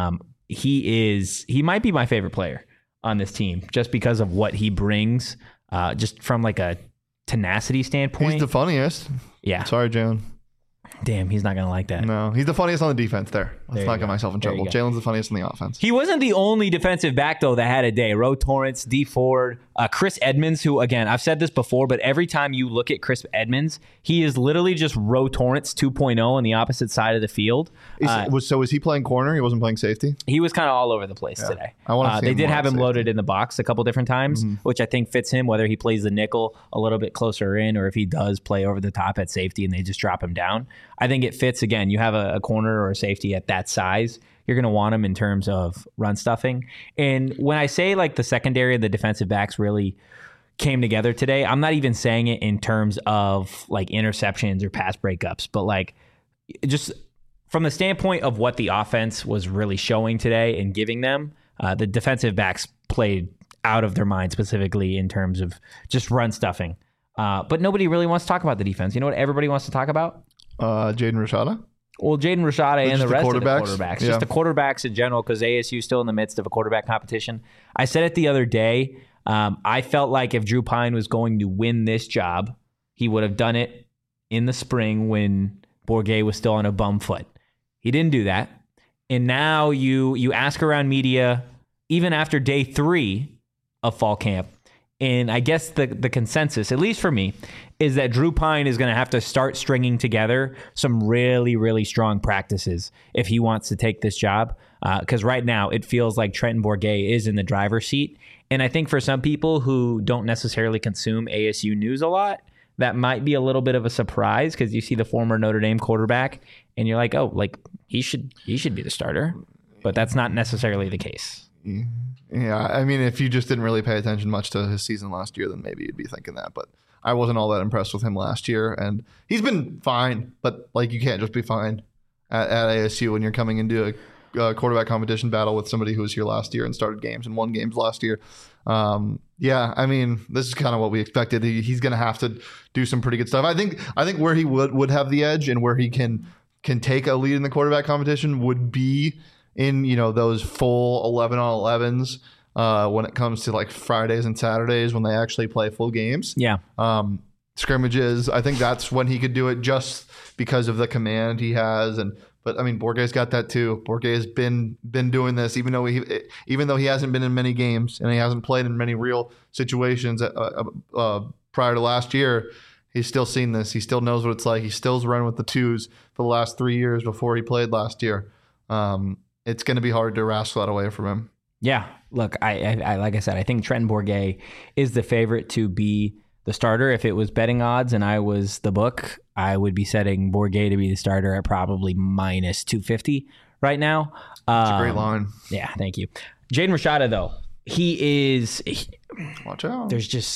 He might be my favorite player on this team just because of what he brings, just from like a tenacity standpoint. He's the funniest. Yeah. Sorry, Jalen. Damn, he's not going to like that. No, he's the funniest on the defense there. Let's There not you get go. myself in There you trouble. go. Jalen's the funniest on the offense. He wasn't the only defensive back, though, that had a day. Ro Torrance, D. Ford, Chris Edmonds, who, again, I've said this before, but every time you look at Chris Edmonds, he is literally just Ro Torrance 2.0 on the opposite side of the field. Was he playing corner? He wasn't playing safety? He was kind of all over the place today. I wanna see They him did more have at him safety. loaded in the box a couple different times, which I think fits him, whether he plays the nickel a little bit closer in or if he does play over the top at safety and they just drop him down. I think it fits. Again, you have a corner or a safety at that size, you're going to want him in terms of run stuffing. And when I say like the secondary and the defensive backs really came together today, I'm not even saying it in terms of like interceptions or pass breakups, but like just from the standpoint of what the offense was really showing today and giving them, the defensive backs played out of their mind specifically in terms of just run stuffing. But nobody really wants to talk about the defense. You know what everybody wants to talk about? Jaden Rashada? Well, Jaden Rashada and the rest of the quarterbacks. Yeah. Just the quarterbacks in general, because ASU is still in the midst of a quarterback competition. I said it the other day. I felt like if Drew Pine was going to win this job, he would have done it in the spring when Bourguet was still on a bum foot. He didn't do that. And now you ask around media, even after day 3 of fall camp, and I guess the consensus, at least for me, is that Drew Pine is going to have to start stringing together some really, really strong practices if he wants to take this job. Because right now it feels like Trenton Bourguet is in the driver's seat. And I think for some people who don't necessarily consume ASU news a lot, that might be a little bit of a surprise because you see the former Notre Dame quarterback and you're like, oh, like he should be the starter. But that's not necessarily the case. Yeah, I mean, if you just didn't really pay attention much to his season last year, then maybe you'd be thinking that. But I wasn't all that impressed with him last year, and he's been fine. But like, you can't just be fine at ASU when you're coming into a quarterback competition battle with somebody who was here last year and started games and won games last year. Yeah, I mean, this is kind of what we expected. He's going to have to do some pretty good stuff. I think where he would have the edge and where he can take a lead in the quarterback competition would be in, those full 11-on-11s when it comes to like Fridays and Saturdays when they actually play full games. Yeah. Scrimmages. I think that's when he could do it just because of the command he has. But I mean, Bourguet's got that too. Bourguet's been doing this, even though he hasn't been in many games and he hasn't played in many real situations prior to last year. He's still seen this. He still knows what it's like. He still's run with the twos for the last 3 years before he played last year. It's going to be hard to wrestle that away from him. Yeah. Look, I like I said, I think Trenton Bourguet is the favorite to be the starter. If it was betting odds and I was the book, I would be setting Bourguet to be the starter at probably minus 250 right now. That's a great line. Yeah, thank you. Jaden Rashada, though, watch out.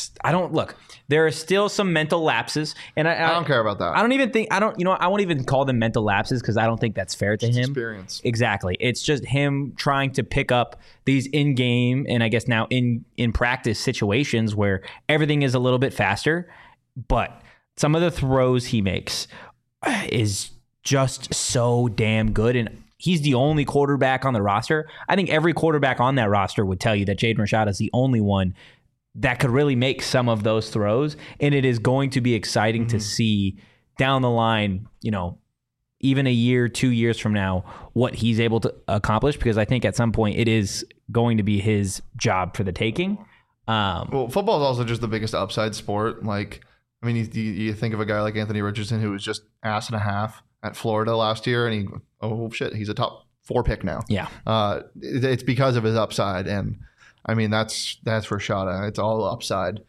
There are still some mental lapses, and I don't care about that. I won't even call them mental lapses because I don't think that's fair to him. Experience. Exactly. It's just him trying to pick up these in-game and I guess now in practice situations where everything is a little bit faster, but some of the throws he makes is just so damn good. And he's the only quarterback on the roster. I think every quarterback on that roster would tell you that Jaden Rashada is the only one that could really make some of those throws. And it is going to be exciting to see down the line, even a year, 2 years from now, what he's able to accomplish, because I think at some point it is going to be his job for the taking. Well, football is also just the biggest upside sport. Like, I mean, you think of a guy like Anthony Richardson who was just ass and a half at Florida last year, and he's a top 4 pick now. Yeah. It's because of his upside, and I mean that's Rashada. It's all upside.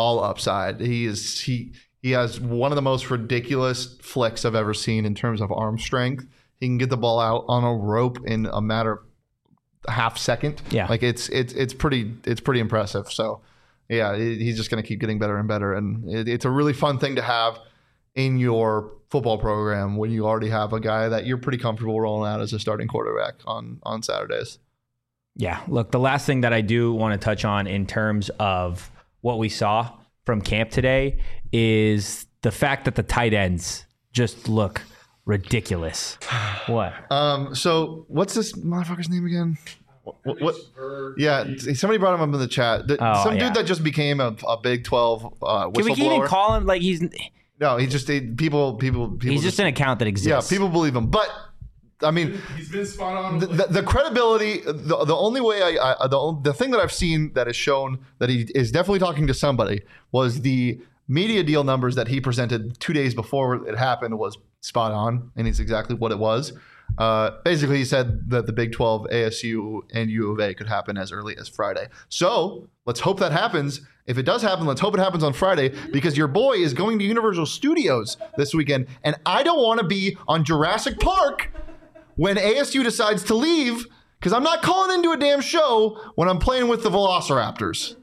He has one of the most ridiculous flicks I've ever seen in terms of arm strength. He can get the ball out on a rope in a matter of a half second. Yeah. Like it's pretty impressive. So yeah, he's just going to keep getting better and better, and it's a really fun thing to have in your football program when you already have a guy that you're pretty comfortable rolling out as a starting quarterback on Saturdays. Yeah. Look, the last thing that I do want to touch on in terms of what we saw from camp today is the fact that the tight ends just look ridiculous. What? So what's this motherfucker's name again? What? Yeah, somebody brought him up in the chat. Dude that just became a Big 12 whistleblower. Can we even call him like he's? No, he's just people. He's just an account that exists. Yeah, people believe him, but I mean, he's been spot on. The credibility. The only way the thing that I've seen that has shown that he is definitely talking to somebody was the media deal numbers that he presented 2 days before it happened was spot on, and it's exactly what it was. Basically, he said that the Big 12, ASU, and U of A could happen as early as Friday. So let's hope that happens. If it does happen, let's hope it happens on Friday, because your boy is going to Universal Studios this weekend, and I don't want to be on Jurassic Park when ASU decides to leave, because I'm not calling into a damn show when I'm playing with the Velociraptors.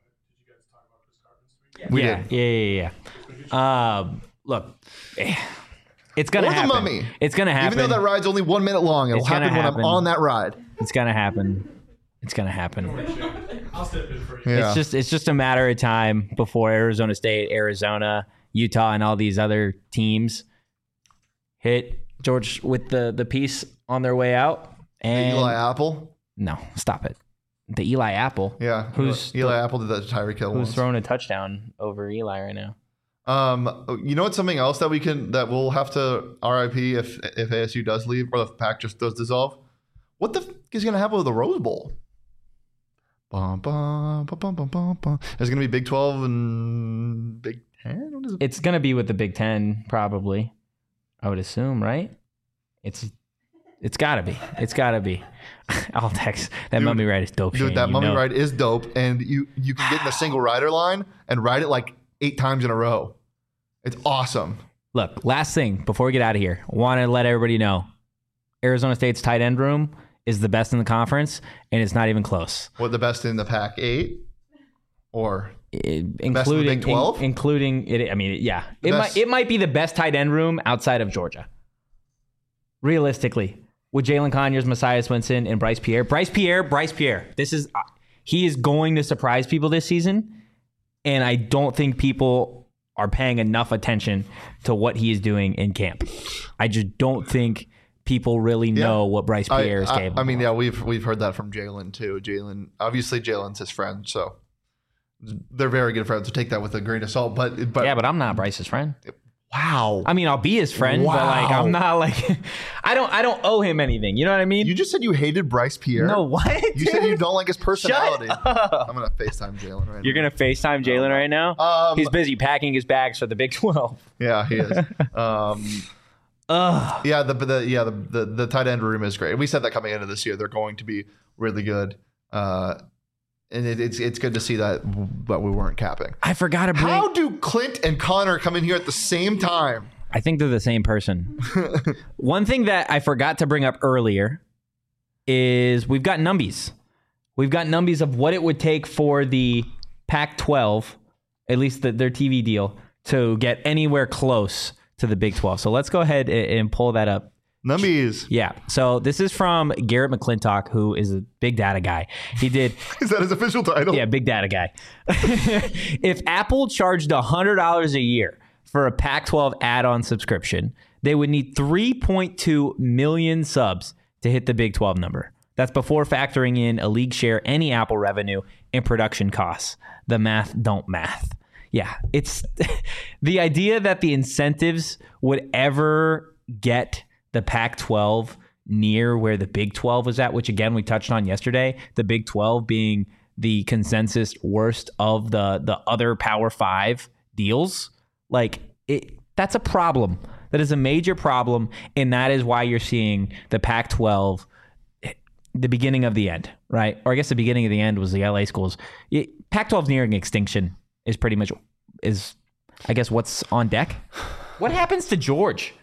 We did. Yeah. Look, it's going to happen. Or the Mummy. It's going to happen. Even though that ride's only 1 minute long, it'll happen when I'm on that ride. It's going to happen. It's going to happen. I'll step in for you. Yeah. It's just a matter of time before Arizona State, Arizona, Utah, and all these other teams hit George with the piece on their way out. And Eli Apple? No, stop it. The Eli Apple. Yeah. Eli Apple did that to Tyreek Hill Who's once. throwing a touchdown over Eli right now? You know what's something else that we'll have to RIP if ASU does leave or the pack just does dissolve? What the is going to happen with the Rose Bowl? Bum, bum, bum, bum, bum, bum, bum. Is it going to be Big 12 and Big 10? What is it? It's going to be with the Big 10, probably. I would assume, right? It's got to be. It's got to be. I'll text. That mummy ride is dope. Dude, Shane, that mummy ride is dope. And you can get in a single rider line and ride it like 8 times in a row. It's awesome. Look, last thing before we get out of here, I want to let everybody know Arizona State's tight end room is the best in the conference, and it's not even close. What, the best in the Pac 8? Or including Big 12? Including it. I mean, yeah. Best. It might be the best tight end room outside of Georgia. Realistically, with Jalen Conyers, Messiah Swinson, and Bryce Pierre. Bryce Pierre. He is going to surprise people this season, and I don't think people are paying enough attention to what he is doing in camp. I just don't think people really know what Bryce Pierre is capable. I mean, yeah, we've heard that from Jalen too. Jalen's his friend, so they're very good friends. So take that with a grain of salt. But but I'm not Bryce's friend. Wow. I mean, I'll be his friend, but like I'm not like I don't owe him anything. You know what I mean? You just said you hated Bryce Pierre. No, what? You said you don't like his personality. Shut up. I'm gonna FaceTime Jalen right now. You're gonna FaceTime Jalen right now? He's busy packing his bags for the Big 12. Yeah, he is. Yeah, the tight end room is great. We said that coming into this year, they're going to be really good. And it's good to see that we weren't capping. I forgot to bring. How do Clint and Connor come in here at the same time? I think they're the same person. One thing that I forgot to bring up earlier is we've got numbies. We've got numbies of what it would take for the Pac-12, at least their TV deal, to get anywhere close to the Big 12. So let's go ahead and pull that up. Numbies. Yeah. So this is from Garrett McClintock, who is a big data guy. He did. Is that his official title? Yeah, big data guy. If Apple charged $100 a year for a Pac-12 add-on subscription, they would need 3.2 million subs to hit the Big 12 number. That's before factoring in a league share, any Apple revenue, and production costs. The math don't math. Yeah, it's the idea that the incentives would ever get the Pac-12 near where the Big 12 was at, which again, we touched on yesterday, the Big 12 being the consensus worst of the other Power 5 deals. Like, that's a problem. That is a major problem, and that is why you're seeing the Pac-12, the beginning of the end, right? Or I guess the beginning of the end was the LA schools. Pac-12 nearing extinction is pretty much, I guess, what's on deck. What happens to George?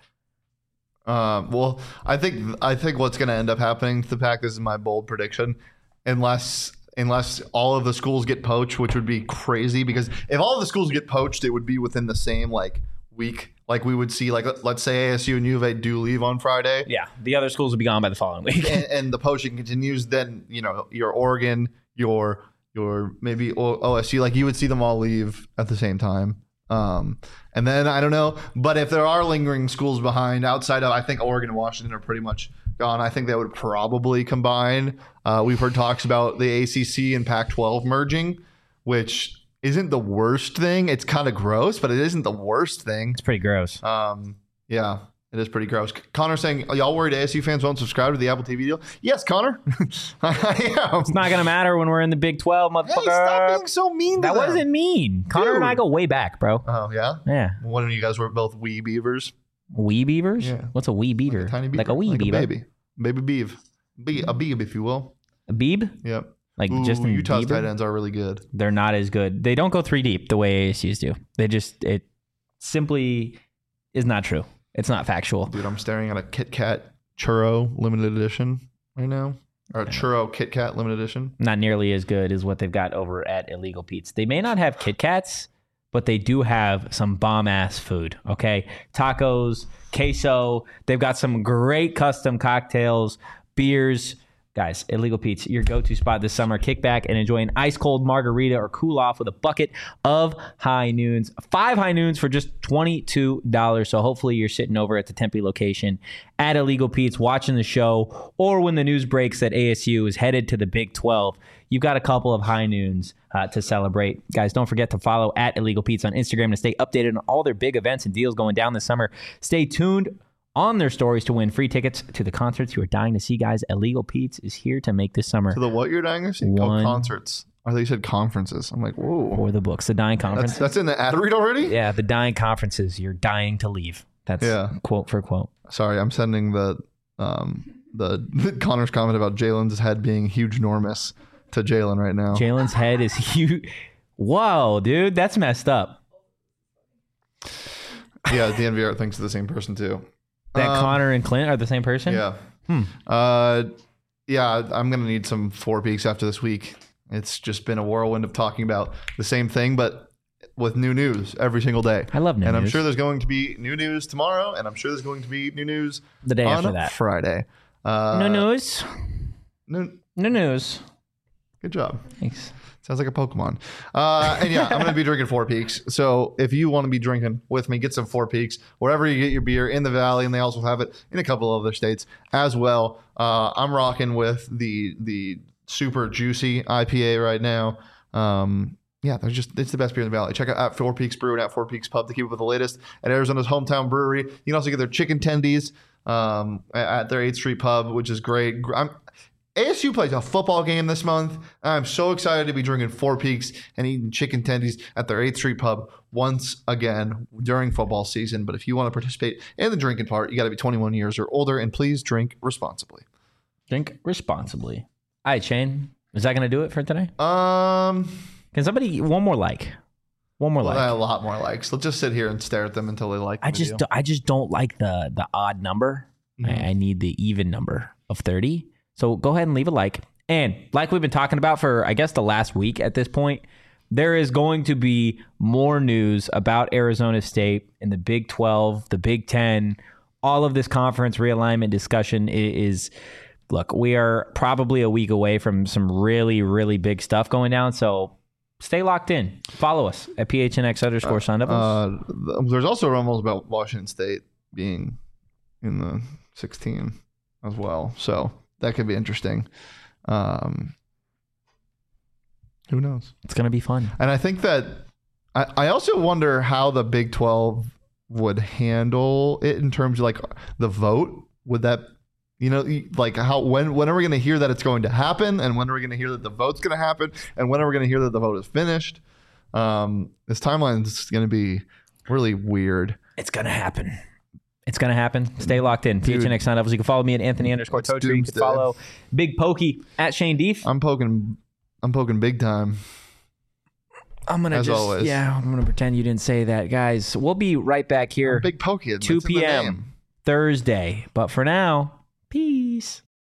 Well, I think what's going to end up happening to the Pac, this is my bold prediction, unless all of the schools get poached, which would be crazy, because if all of the schools get poached, it would be within the same week. Like we would see, let's say ASU and U of A do leave on Friday. Yeah, the other schools would be gone by the following week. and the poaching continues. Then your Oregon, your maybe OSU, like you would see them all leave at the same time. And then I don't know, but if there are lingering schools behind outside of, I think Oregon and Washington are pretty much gone. I think they would probably combine. We've heard talks about the ACC and Pac-12 merging, which isn't the worst thing. It's kind of gross, but it isn't the worst thing. It's pretty gross. Yeah, it is pretty gross. Connor saying, y'all worried ASU fans won't subscribe to the Apple TV deal? Yes, Connor. I am. It's not going to matter when we're in the Big 12, motherfucker. Hey, stop being so mean to That them. wasn't mean. Connor and I go way back, bro. Oh, yeah? Yeah. One of you guys were both wee beavers. Wee beavers? Yeah. What's a wee beaver? Like a tiny beaver. Like a wee like beaver. A baby. Baby beav. A beeb, if you will. A beeb? Yep. Like Ooh, Justin Utah's Bieber? tight ends are really good. They're not as good. They don't go 3 deep the way ASU's do. It simply is not true. It's not factual. Dude, I'm staring at a Kit Kat churro limited edition right now. Or a churro Kit Kat limited edition. Not nearly as good as what they've got over at Illegal Pete's. They may not have Kit Kats, but they do have some bomb-ass food, okay? Tacos, queso. They've got some great custom cocktails, beers. Guys, Illegal Pete's, your go-to spot this summer. Kick back and enjoy an ice-cold margarita or cool off with a bucket of High Noons. 5 High Noons for just $22. So hopefully you're sitting over at the Tempe location at Illegal Pete's watching the show, or when the news breaks that ASU is headed to the Big 12, you've got a couple of High Noons to celebrate. Guys, don't forget to follow at Illegal Pete's on Instagram to stay updated on all their big events and deals going down this summer. Stay tuned on their stories to win free tickets to the concerts you are dying to see, guys. Illegal Pete's is here to make this summer. To the what you're dying to see? Oh, concerts. I thought you said conferences. I'm like, whoa. For the books. The dying conference. That's in the ad read already? Yeah, the dying conferences. You're dying to leave. That's quote for quote. Sorry, I'm sending the Connor's comment about Jalen's head being huge enormous to Jalen right now. Jalen's head is huge. Whoa, dude. That's messed up. Yeah, the DNVR thinks of the same person too. That Connor and Clint are the same person? Yeah. Yeah, I'm going to need some 4 peaks after this week. It's just been a whirlwind of talking about the same thing, but with new news every single day. I love new news. And I'm sure there's going to be new news tomorrow, and I'm sure there's going to be new news the day after that. Friday. No news. No news. Good job. Thanks. Sounds like a Pokemon. And yeah, I'm going to be drinking 4 Peaks. So if you want to be drinking with me, get some 4 Peaks wherever you get your beer in the Valley, and they also have it in a couple of other states as well. I'm rocking with the super juicy IPA right now. Yeah, it's the best beer in the Valley. Check out at 4 Peaks Brew and at 4 Peaks Pub to keep up with the latest at Arizona's hometown brewery. You can also get their chicken tendies at their 8th Street Pub, which is great. ASU plays a football game this month. I'm so excited to be drinking 4 Peaks and eating chicken tendies at their 8th Street Pub once again during football season. But if you want to participate in the drinking part, you got to be 21 years or older, and please drink responsibly. Drink responsibly. All right, Shane. Is that going to do it for today? Can somebody one more like? A lot more likes. Let's just sit here and stare at them until they like. I just don't like the odd number. Mm-hmm. I need the even number of 30. So go ahead and leave a like. And like we've been talking about for, I guess, the last week at this point, there is going to be more news about Arizona State and the Big 12, the Big 10. All of this conference realignment discussion is, look, we are probably a week away from some really, really big stuff going down. So stay locked in. Follow us at PHNX_Sun Devils. There's also rumbles about Washington State being in the 16 as well. So that could be interesting. Who knows? It's going to be fun. And I think that I also wonder how the Big 12 would handle it in terms of like the vote. Would that, like when are we going to hear that it's going to happen? And when are we going to hear that the vote's going to happen? And when are we going to hear that the vote is finished? This timeline is going to be really weird. It's going to happen. Stay locked in. PHNX Sun Devils. You can follow me at Anthony_Totri. You can follow Big Pokey at Shane Deef. I'm poking big time. I'm gonna pretend you didn't say that, guys. We'll be right back here. Big Pokey. 2 p.m. Thursday. But for now, peace.